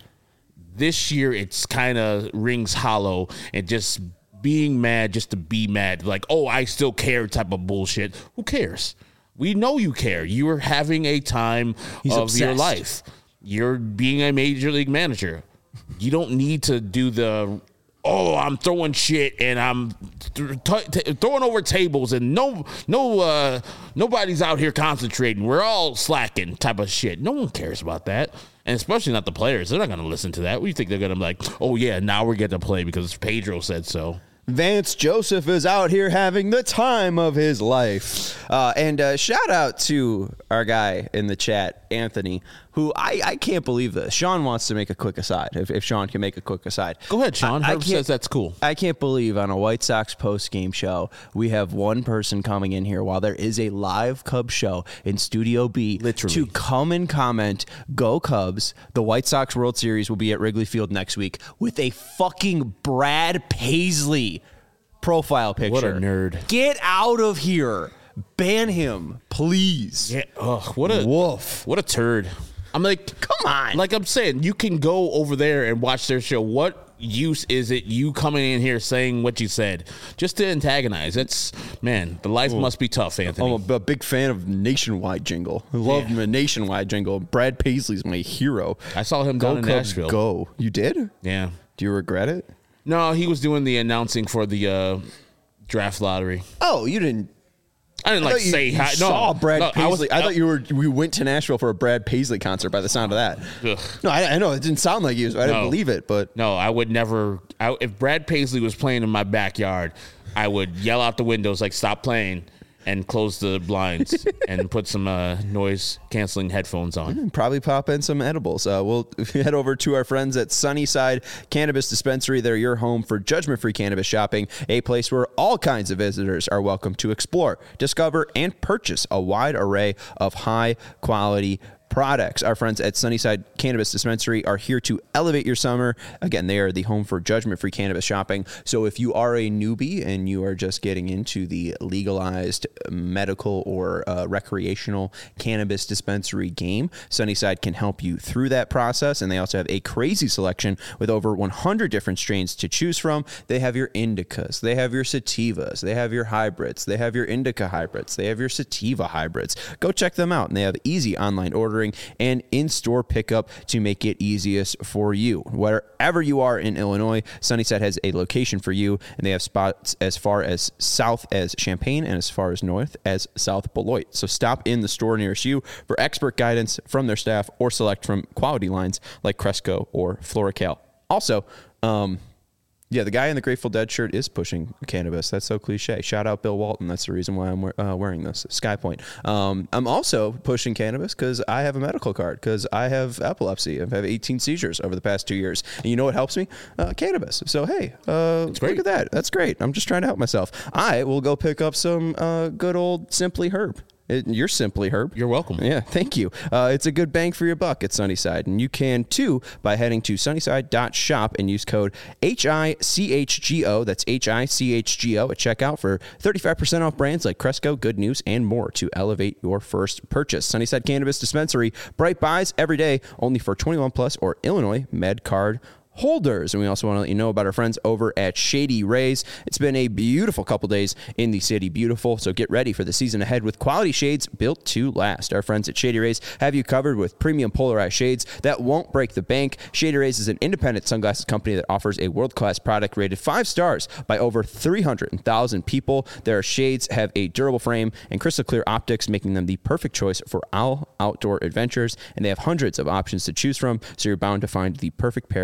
This year, it's kind of rings hollow and just being mad just to be mad. Like, oh, I still care type of bullshit. Who cares? We know you care. You are having a time He's of obsessed. your life. You're being a major league manager. You don't need to do the, oh, I'm throwing shit and I'm th- t- throwing over tables and no, no, uh, nobody's out here concentrating. We're all slacking type of shit. No one cares about that. And especially not the players. They're not going to listen to that. What do you think they're going to be like, oh, yeah, now we're getting to play because Pedro said so. Vance Joseph is out here having the time of his life. Uh, and uh, shout out to our guy in the chat, Anthony, who I, I can't believe this. Sean wants to make a quick aside, if, if Sean can make a quick aside. Go ahead, Sean. I, I Herb says that's cool. I can't believe on a White Sox post-game show, we have one person coming in here while there is a live Cubs show in Studio B Literally. to come and comment, go Cubs, the White Sox World Series will be at Wrigley Field next week, with a fucking Brad Paisley profile picture. What a nerd. Get out of here. Ban him, please. Yeah. Ugh, what a woof. What a turd. I'm like, come on. Like I'm saying, you can go over there and watch their show. What use is it you coming in here saying what you said just to antagonize? It's, man, the life Ooh. must be tough, Anthony. I'm a, a big fan of Nationwide Jingle. I love Yeah. the Nationwide Jingle. Brad Paisley's my hero. I saw him Go down in Cubs, Nashville. Go. You did? Yeah. Do you regret it? No, he was doing the announcing for the uh, draft lottery. Oh, you didn't. I didn't I like thought you, say you hi. saw no, Brad no, Paisley. I, was, I thought you were. We went to Nashville for a Brad Paisley concert. By the sound of that, Ugh. no, I, I know it didn't sound like you. So I didn't No. believe it. But No, I would never. I, if Brad Paisley was playing in my backyard, I would yell out the windows like, "Stop playing!" and close the blinds and put some uh, noise canceling headphones on. probably pop in some edibles. Uh, we'll head over to our friends at Sunnyside Cannabis Dispensary. They're your home for judgment-free cannabis shopping, a place where all kinds of visitors are welcome to explore, discover, and purchase a wide array of high-quality products. Our friends at Sunnyside Cannabis Dispensary are here to elevate your summer. Again, they are the home for judgment-free cannabis shopping. So if you are a newbie and you are just getting into the legalized medical or uh, recreational cannabis dispensary game, Sunnyside can help you through that process. And they also have a crazy selection with over one hundred different strains to choose from. They have your indicas, they have your sativas, they have your hybrids, they have your indica hybrids, they have your sativa hybrids. Go check them out. And they have easy online ordering and in-store pickup to make it easiest for you. Wherever you are in Illinois, Sunnyside has a location for you, and they have spots as far as south as Champaign and as far as north as South Beloit. So stop in the store nearest you for expert guidance from their staff or select from quality lines like Cresco or Floracal. Also, um, yeah, the guy in the Grateful Dead shirt is pushing cannabis. That's so cliche. Shout out Bill Walton. That's the reason why I'm uh, wearing this. Skypoint. Um, I'm also pushing cannabis because I have a medical card because I have epilepsy. I've had eighteen seizures over the past two years. And you know what helps me? Uh, cannabis. So, hey, uh, look at that. That's great. I'm just trying to help myself. I will go pick up some uh, good old Simply Herb. It, you're Simply Herb. You're welcome. Yeah, thank you. Uh, it's a good bang for your buck at Sunnyside. And you can, too, by heading to sunnyside dot shop and use code H I C H G O. That's H I C H G O at checkout for thirty-five percent off brands like Cresco, Good News, and more to elevate your first purchase. Sunnyside Cannabis Dispensary. Bright buys every day, only for twenty-one plus or Illinois Med Card holders. And we also want to let you know about our friends over at Shady Rays. It's been a beautiful couple days in the city. Beautiful. So get ready for the season ahead with quality shades built to last. Our friends at Shady Rays have you covered with premium polarized shades that won't break the bank. Shady Rays is an independent sunglasses company that offers a world-class product rated five stars by over three hundred thousand people. Their shades have a durable frame and crystal clear optics, making them the perfect choice for all outdoor adventures. And they have hundreds of options to choose from, so you're bound to find the perfect pair to match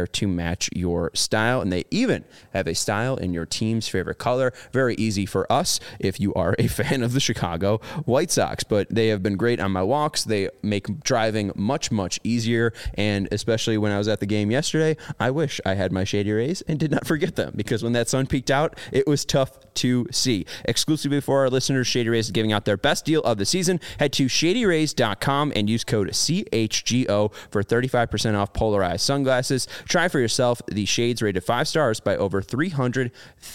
match your style. And they even have a style in your team's favorite color. Very easy for us if you are a fan of the Chicago White Sox. But they have been great on my walks. They make driving much, much easier. And especially when I was at the game yesterday, I wish I had my Shady Rays and did not forget them, because when that sun peeked out, it was tough to see. Exclusively for our listeners, Shady Rays is giving out their best deal of the season. Head to shady rays dot com and use code C H G O for thirty-five percent off polarized sunglasses. Try for yourself the shades rated five stars by over three hundred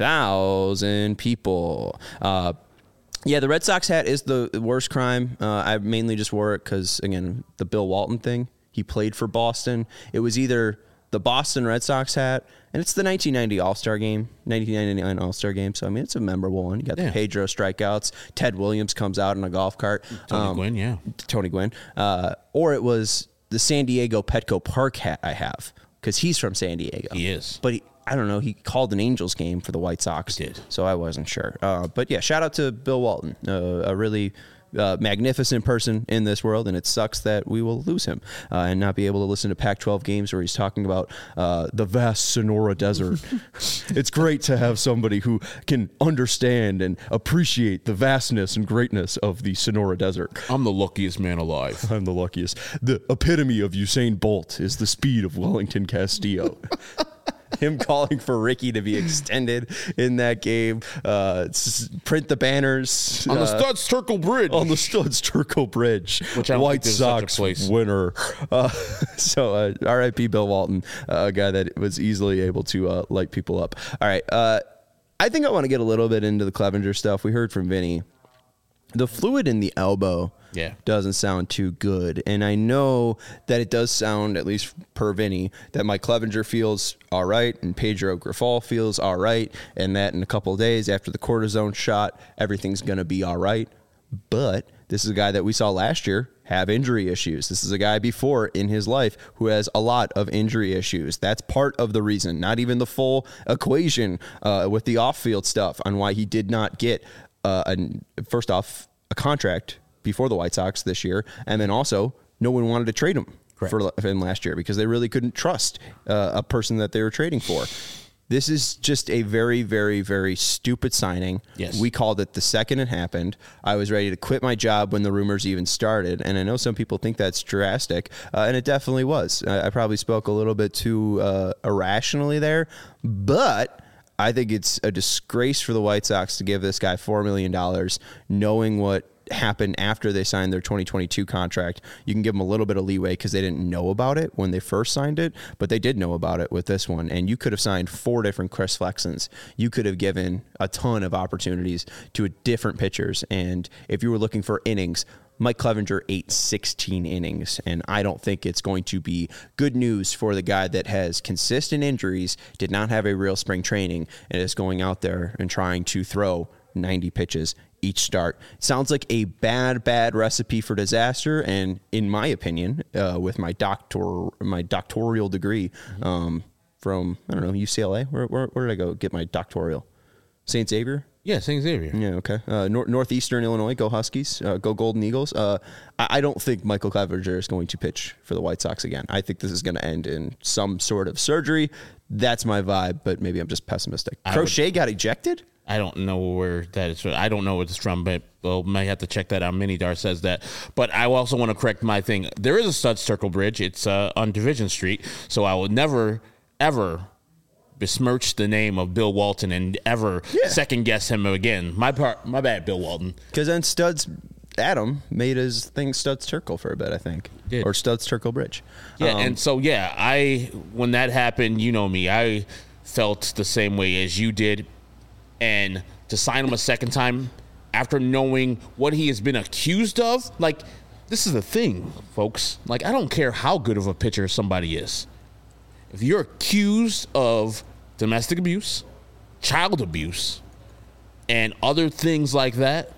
thousand people. Uh, yeah, the Red Sox hat is the worst crime. Uh, I mainly just wore it because, again, the Bill Walton thing. He played for Boston. It was either the Boston Red Sox hat, and it's the nineteen ninety All-Star game, nineteen ninety-nine All-Star game. So, I mean, it's a memorable one. You got yeah. the Pedro strikeouts. Ted Williams comes out in a golf cart. Tony um, Gwynn, yeah. Tony Gwynn. Uh, or it was the San Diego Petco Park hat I have, because he's from San Diego. He is. But he, I don't know, he called an Angels game for the White Sox. He did. So I wasn't sure. Uh, but, yeah, shout out to Bill Walton, uh, a really uh, magnificent person in this world, and it sucks that we will lose him uh, and not be able to listen to Pac twelve games where he's talking about uh, the vast Sonora Desert. It's great to have somebody who can understand and appreciate the vastness and greatness of the Sonora Desert. I'm the luckiest man alive. I'm the luckiest. The epitome of Usain Bolt is the speed of Wellington Castillo. Him calling for Ricky to be extended in that game. Uh, print the banners. On the uh, Studs Turkle Bridge. On the Studs Turkle Bridge. Which I White Sox winner. Uh, so uh, R I P Bill Walton, uh, a guy that was easily able to uh, light people up. All right. Uh, I think I want to get a little bit into the Clevenger stuff. We heard from Vinny. The fluid in the elbow yeah. doesn't sound too good. And I know that it does sound, at least per Vinny, that Mike Clevenger feels all right and Pedro Grifol feels all right, and that in a couple of days after the cortisone shot, everything's going to be all right. But this is a guy that we saw last year have injury issues. This is a guy before in his life who has a lot of injury issues. That's part of the reason, not even the full equation uh, with the off-field stuff on why he did not get Uh, a, first off, a contract before the White Sox this year, and then also no one wanted to trade him Correct. for him last year because they really couldn't trust uh, a person that they were trading for. This is just a very, very, very stupid signing. Yes. We called it the second it happened. I was ready to quit my job when the rumors even started, and I know some people think that's drastic, uh, and it definitely was. I, I probably spoke a little bit too uh, irrationally there, but I think it's a disgrace for the White Sox to give this guy four million dollars, knowing what happened after they signed their twenty twenty-two contract. You can give them a little bit of leeway because they didn't know about it when they first signed it, but they did know about it with this one. And you could have signed four different Chris Flexens. You could have given a ton of opportunities to different pitchers. And if you were looking for innings, Mike Clevenger ate sixteen innings, and I don't think it's going to be good news for the guy that has consistent injuries, did not have a real spring training, and is going out there and trying to throw ninety pitches each start. Sounds like a bad, bad recipe for disaster, and in my opinion, uh, with my doctor, my doctoral degree um, from, I don't know, U C L A? Where, where, where did I go get my doctoral? Saint Xavier? Yeah, Saint Xavier. Yeah, okay. Uh, nor- Northeastern Illinois, go Huskies, uh, go Golden Eagles. Uh, I-, I don't think Michael Clevenger is going to pitch for the White Sox again. I think this is going to end in some sort of surgery. That's my vibe, but maybe I'm just pessimistic. I Crochet would, got ejected? I don't know where that is. I don't know what it's from, but well, might have to check that out. Minidar says that. But I also want to correct my thing. There is a Studs Circle Bridge. It's uh, on Division Street, so I will never, ever besmirch the name of Bill Walton and ever yeah. second guess him again. My part, my bad, Bill Walton. Because then Studs Adam made his thing Studs Turkle for a bit, I think, Did. or Studs Turkle Bridge. Yeah, um, and so yeah, I when that happened, you know me, I felt the same way as you did, and to sign him a second time after knowing what he has been accused of, like this is the thing, folks. Like I don't care how good of a pitcher somebody is, if you're accused of domestic abuse, child abuse, and other things like that,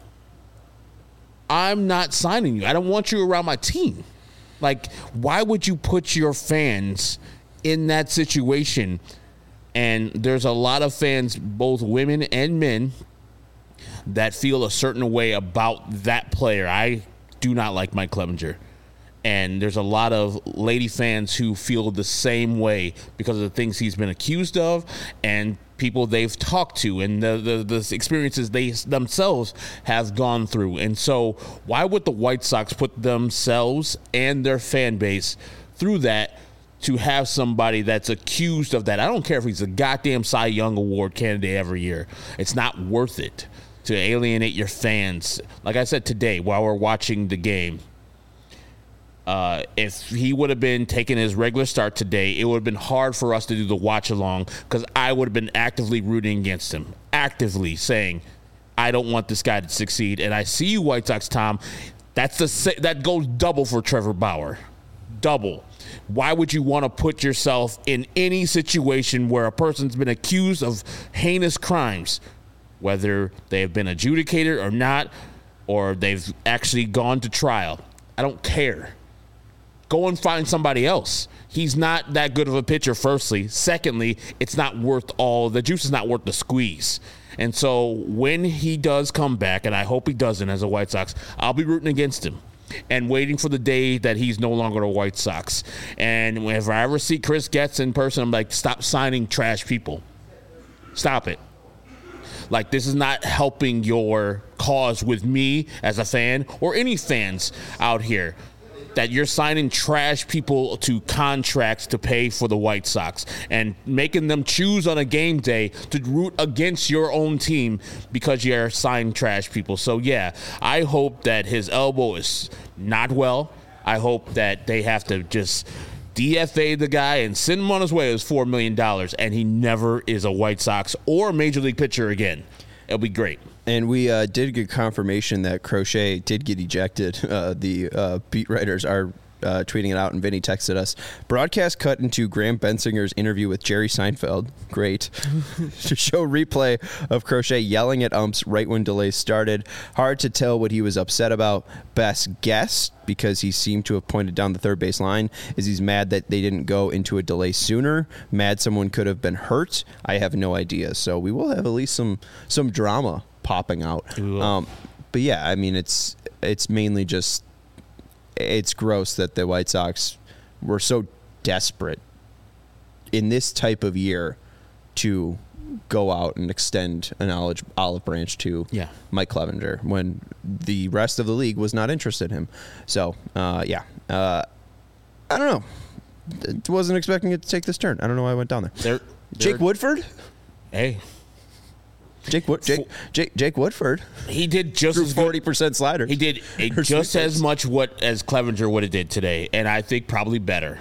I'm not signing you. I don't want you around my team. Like, why would you put your fans in that situation? And there's a lot of fans, both women and men, that feel a certain way about that player. I do not like Mike Clevenger. And there's a lot of lady fans who feel the same way because of the things he's been accused of and people they've talked to and the, the, the experiences they themselves have gone through. And so why would the White Sox put themselves and their fan base through that to have somebody that's accused of that? I don't care if he's a goddamn Cy Young Award candidate every year. It's not worth it to alienate your fans. Like I said today while we're watching the game, Uh, if he would have been taking his regular start today, it would have been hard for us to do the watch along because I would have been actively rooting against him, actively saying, I don't want this guy to succeed. And I see you, White Sox, Tom. That's the that goes double for Trevor Bauer. Double. Why would you want to put yourself in any situation where a person's been accused of heinous crimes, whether they have been adjudicated or not, or they've actually gone to trial? I don't care. Go and find somebody else. He's not that good of a pitcher, firstly. Secondly, it's not worth all, the juice is not worth the squeeze. And so when he does come back, and I hope he doesn't as a White Sox, I'll be rooting against him and waiting for the day that he's no longer a White Sox. And whenever I ever see Chris Getz in person, I'm like, stop signing trash people. Stop it. Like, this is not helping your cause with me as a fan or any fans out here, that you're signing trash people to contracts to pay for the White Sox and making them choose on a game day to root against your own team because you're signing trash people. So, yeah, I hope that his elbow is not well. I hope that they have to just D F A the guy and send him on his way as four million dollars, and he never is a White Sox or Major League pitcher again. It'll be great. And we uh, did get confirmation that Crochet did get ejected. Uh, the uh, beat writers are uh, tweeting it out, and Vinny texted us. Broadcast cut into Graham Bensinger's interview with Jerry Seinfeld. Great. To show replay of Crochet yelling at umps right when delays started. Hard to tell what he was upset about. Best guess, because he seemed to have pointed down the third base line, is he's mad that they didn't go into a delay sooner. Mad someone could have been hurt. I have no idea. So we will have at least some some drama popping out. Um, but yeah, I mean, it's it's mainly just, it's gross that the White Sox were so desperate in this type of year to go out and extend an olive, olive branch to yeah. Mike Clevenger when the rest of the league was not interested in him. So, uh, yeah, uh, I don't know. Wasn't expecting it to take this turn. I don't know why I went down there. They're, Jake they're, Woodford? Hey. Jake, Wood, Jake, Jake, Jake Woodford. He did just threw as forty percent slider. He did a, just as much what as Clevenger would have did today, and I think probably better.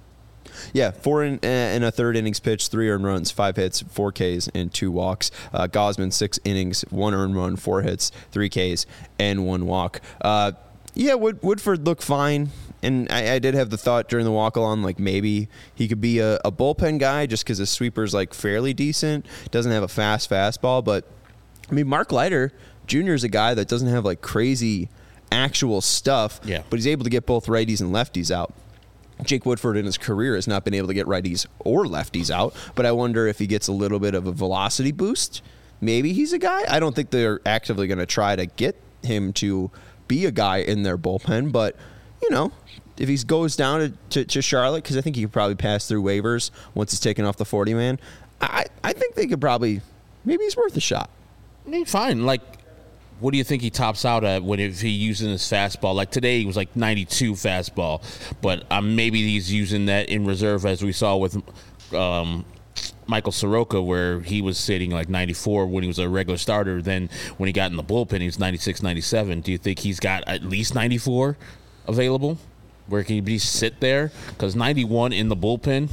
Yeah, four in, uh, in a third innings pitch, three earned runs, five hits, four Ks, and two walks. Uh, Gausman, six innings, one earned run, four hits, three Ks, and one walk. Uh, yeah, Wood, Woodford looked fine. And I, I did have the thought during the walk-along, like maybe he could be a, a bullpen guy just because his sweeper's like fairly decent. Doesn't have a fast fastball. But, I mean, Mark Leiter Junior is a guy that doesn't have like crazy actual stuff. Yeah. But he's able to get both righties and lefties out. Jake Woodford in his career has not been able to get righties or lefties out. But I wonder if he gets a little bit of a velocity boost. Maybe he's a guy. I don't think they're actively going to try to get him to be a guy in their bullpen. But, you know, if he goes down to, to, to Charlotte, because I think he could probably pass through waivers once he's taken off the forty man, I, I think they could probably, maybe he's worth a shot. I mean, fine. Like, what do you think he tops out at when if he using his fastball? Like today, he was like ninety-two fastball, but um, maybe he's using that in reserve, as we saw with um, Michael Soroka, where he was sitting like ninety-four when he was a regular starter. Then when he got in the bullpen, he was ninety-six, ninety-seven. Do you think he's got at least ninety-four available? Where can he sit there? Because ninety-one in the bullpen.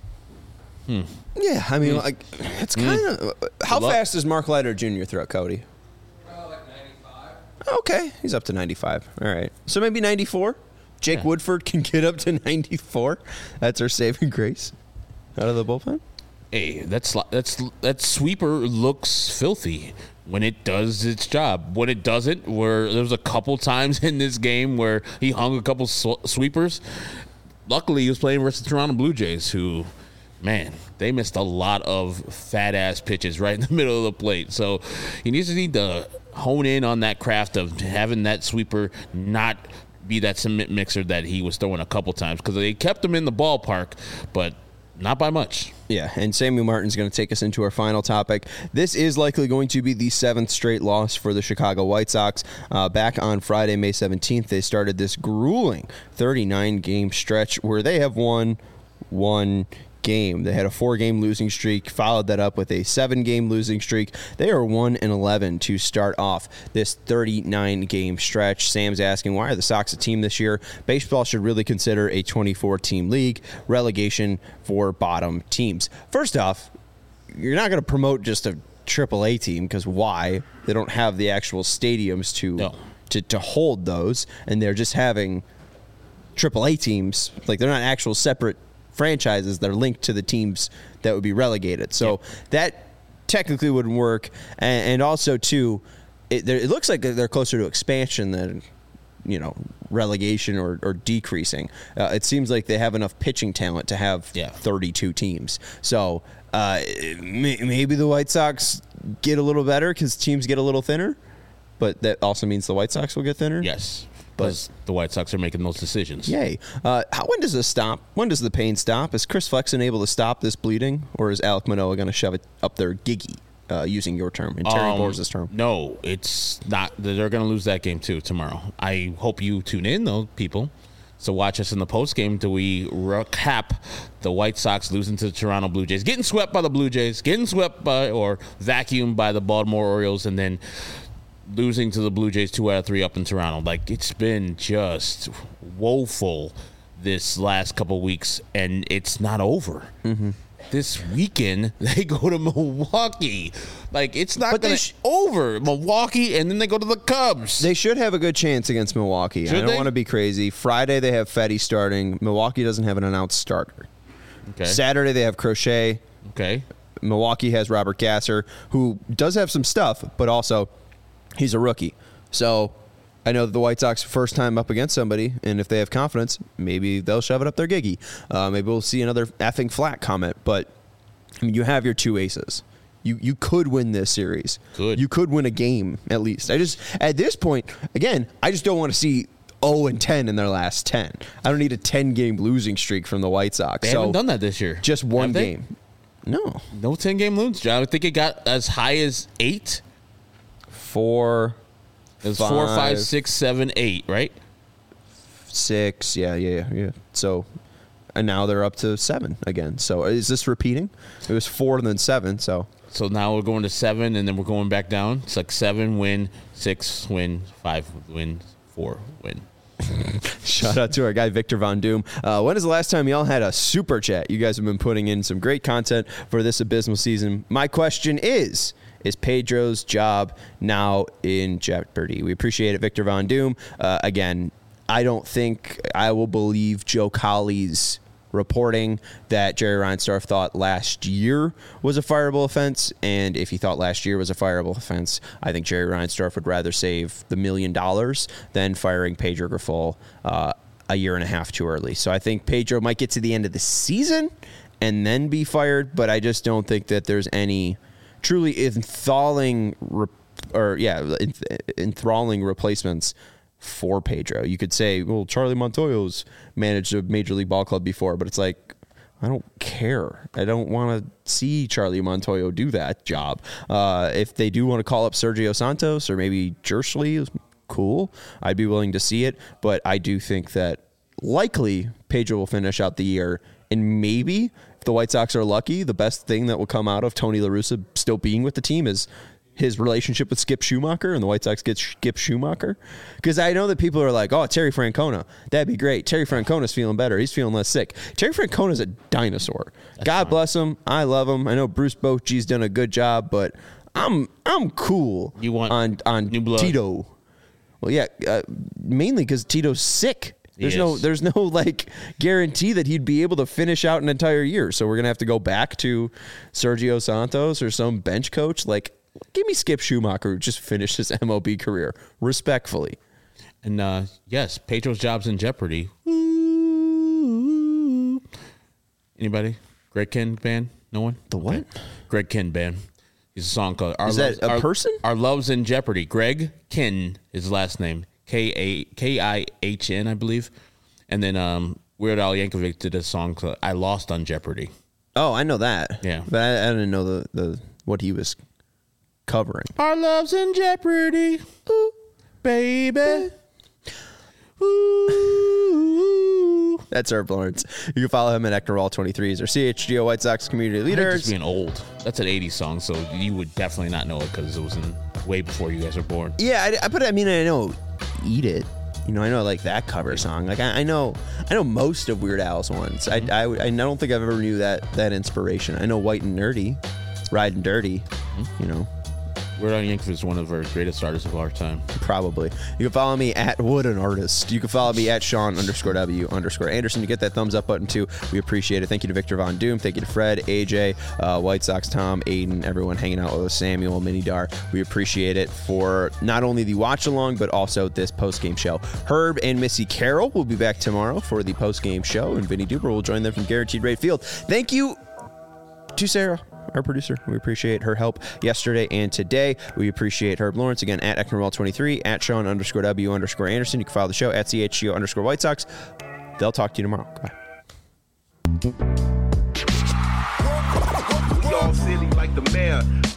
Hmm. Yeah, I mean, mm. like it's kind of. Mm. How Love. fast does Mark Leiter Junior throw, Cody? Uh, like ninety-five. Okay, he's up to ninety-five. All right, so maybe ninety-four. Jake yeah. Woodford can get up to ninety-four. That's our saving grace out of the bullpen. Hey, that's that's that sweeper looks filthy when it does its job. When it doesn't, where there was a couple times in this game where he hung a couple sw- sweepers. Luckily, he was playing versus the Toronto Blue Jays, who, man, they missed a lot of fat-ass pitches right in the middle of the plate. So he needs to need to hone in on that craft of having that sweeper not be that cement mixer that he was throwing a couple times, because they kept him in the ballpark, but not by much. Yeah, and Sammy Martin's going to take us into our final topic. This is likely going to be the seventh straight loss for the Chicago White Sox. Uh, back on Friday, May seventeenth, they started this grueling thirty-nine game stretch where they have won one game. They had a four-game losing streak, followed that up with a seven-game losing streak. They are one and eleven to start off this thirty-nine game stretch. Sam's asking, why are the Sox a team this year? Baseball should really consider a twenty-four team league, relegation for bottom teams. First off, you're not going to promote just a triple A team, because why? They don't have the actual stadiums to, no. to to hold those, and they're just having triple A teams. Like, they're not actual separate franchises. They're linked to the teams that would be relegated. So yeah. that technically wouldn't work. And, and also, too, it, it looks like they're closer to expansion than, you know, relegation or, or decreasing. Uh, it seems like they have enough pitching talent to have yeah. thirty-two teams. So uh, may, maybe the White Sox get a little better because teams get a little thinner, but that also means the White Sox will get thinner. Yes. Because the White Sox are making those decisions. Yay. Uh, how, when does this stop? When does the pain stop? Is Chris Flexen able to stop this bleeding, or is Alek Manoah going to shove it up their giggy, uh, using your term, and Terry um, Boers' term? No, it's not. They're going to lose that game, too, tomorrow. I hope you tune in, though, people. So watch us in the postgame till we recap the White Sox losing to the Toronto Blue Jays, getting swept by the Blue Jays, getting swept by or vacuumed by the Baltimore Orioles, and then losing to the Blue Jays two out of three up in Toronto. Like, it's been just woeful this last couple weeks, and it's not over. Mm-hmm. This weekend, they go to Milwaukee. Like, it's not going to sh- over. Milwaukee, and then they go to the Cubs. They should have a good chance against Milwaukee. Should I don't they? want to be crazy. Friday, they have Fetty starting. Milwaukee doesn't have an announced starter. Okay. Saturday, they have Crochet. Okay. Milwaukee has Robert Gasser, who does have some stuff, but also he's a rookie. So I know that the White Sox first time up against somebody, and if they have confidence, maybe they'll shove it up their giggy. Uh, maybe we'll see another effing flat comment. But I mean, you have your two aces. You you could win this series. Good. You could win a game at least. I just at this point, again, I just don't want to see oh and ten in their last ten. I don't need a ten game losing streak from the White Sox. They so haven't done that this year. Just one Have they? game. No. No ten game losing streak. I think it got as high as eight. Four. It was five, four, five, six, seven, eight, right? Six, yeah, yeah, yeah. So, and now they're up to seven again. So, is this repeating? It was four and then seven. So, so now we're going to seven, and then we're going back down. It's like seven win, six win, five win, four win. Shout out to our guy Victor Von Doom. Uh, when is the last time y'all had a super chat? You guys have been putting in some great content for this abysmal season. My question is: Is Pedro's job now in jeopardy? We appreciate it, Victor Von Doom. Uh, again, I don't think I will believe Joe Colley's reporting that Jerry Reinsdorf thought last year was a fireable offense, and if he thought last year was a fireable offense, I think Jerry Reinsdorf would rather save the million dollars than firing Pedro Grifol uh, a year and a half too early. So I think Pedro might get to the end of the season and then be fired, but I just don't think that there's any truly enthralling, re- or yeah, enthralling replacements for Pedro. You could say, well, Charlie Montoyo's managed a major league ball club before, but it's like, I don't care. I don't want to see Charlie Montoyo do that job. Uh, if they do want to call up Sergio Santos or maybe Jersley, cool. I'd be willing to see it, but I do think that likely Pedro will finish out the year, and maybe if the White Sox are lucky, the best thing that will come out of Tony La Russa still being with the team is his relationship with Skip Schumacher, and the White Sox get Skip Schumacher. Because I know that people are like, oh, Terry Francona, that'd be great. Terry Francona's feeling better. He's feeling less sick. Terry Francona's a dinosaur. That's God fine. Bless him. I love him. I know Bruce Bochy's done a good job, but I'm I'm cool you want on, on new blood. Tito. Well, yeah, uh, mainly because Tito's sick. There's He no, is. there's no like guarantee that he'd be able to finish out an entire year. So we're gonna have to go back to Sergio Santos or some bench coach. Like, give me Skip Schumacher, who just finished his M L B career, respectfully. And uh, yes, Pedro's job's in jeopardy. Anybody? Greg Kihn band? No one? The what? Okay. Greg Kihn band. He's a song called Our Is Love's, that a Our, person? Our Love's in Jeopardy. Greg Kihn is his last name. K A K I H N, I believe. And then um, Weird Al Yankovic did a song called I Lost on Jeopardy. Oh, I know that. Yeah. But I, I didn't know the, the what he was covering. Our love's in jeopardy, ooh, baby. Ooh. That's Herb Lawrence. You can follow him at Ecknerall twenty-three. He's our C H G O White Sox community leader. Just being old. That's an eighties song, so you would definitely not know it because it was in way before you guys were born. Yeah, I, I but I mean I know Eat It. You know, I know like that cover song. Like I, I know, I know most of Weird Al's ones. I, I, I don't think I've ever knew that that inspiration. I know White and Nerdy, Riding Dirty. Mm-hmm. You know, Weird Al Yankovic is one of our greatest artists of our time. Probably. You can follow me at Wood an Artist. You can follow me at Sean underscore W underscore Anderson to get that thumbs up button too. We appreciate it. Thank you to Victor Von Doom. Thank you to Fred, A J, uh, White Sox, Tom, Aiden, everyone hanging out with us, Samuel, Minidar. We appreciate it for not only the watch along, but also this post game show. Herb and Missy Carroll will be back tomorrow for the post game show, and Vinny Duber will join them from Guaranteed Rate Field. Thank you to Sarah, our producer. We appreciate her help yesterday and today. We appreciate Herb Lawrence again at Ecknerall twenty-three, at Sean underscore W underscore Anderson. You can follow the show at C H G O underscore White Sox. They'll talk to you tomorrow. Goodbye. We all silly like the mayor.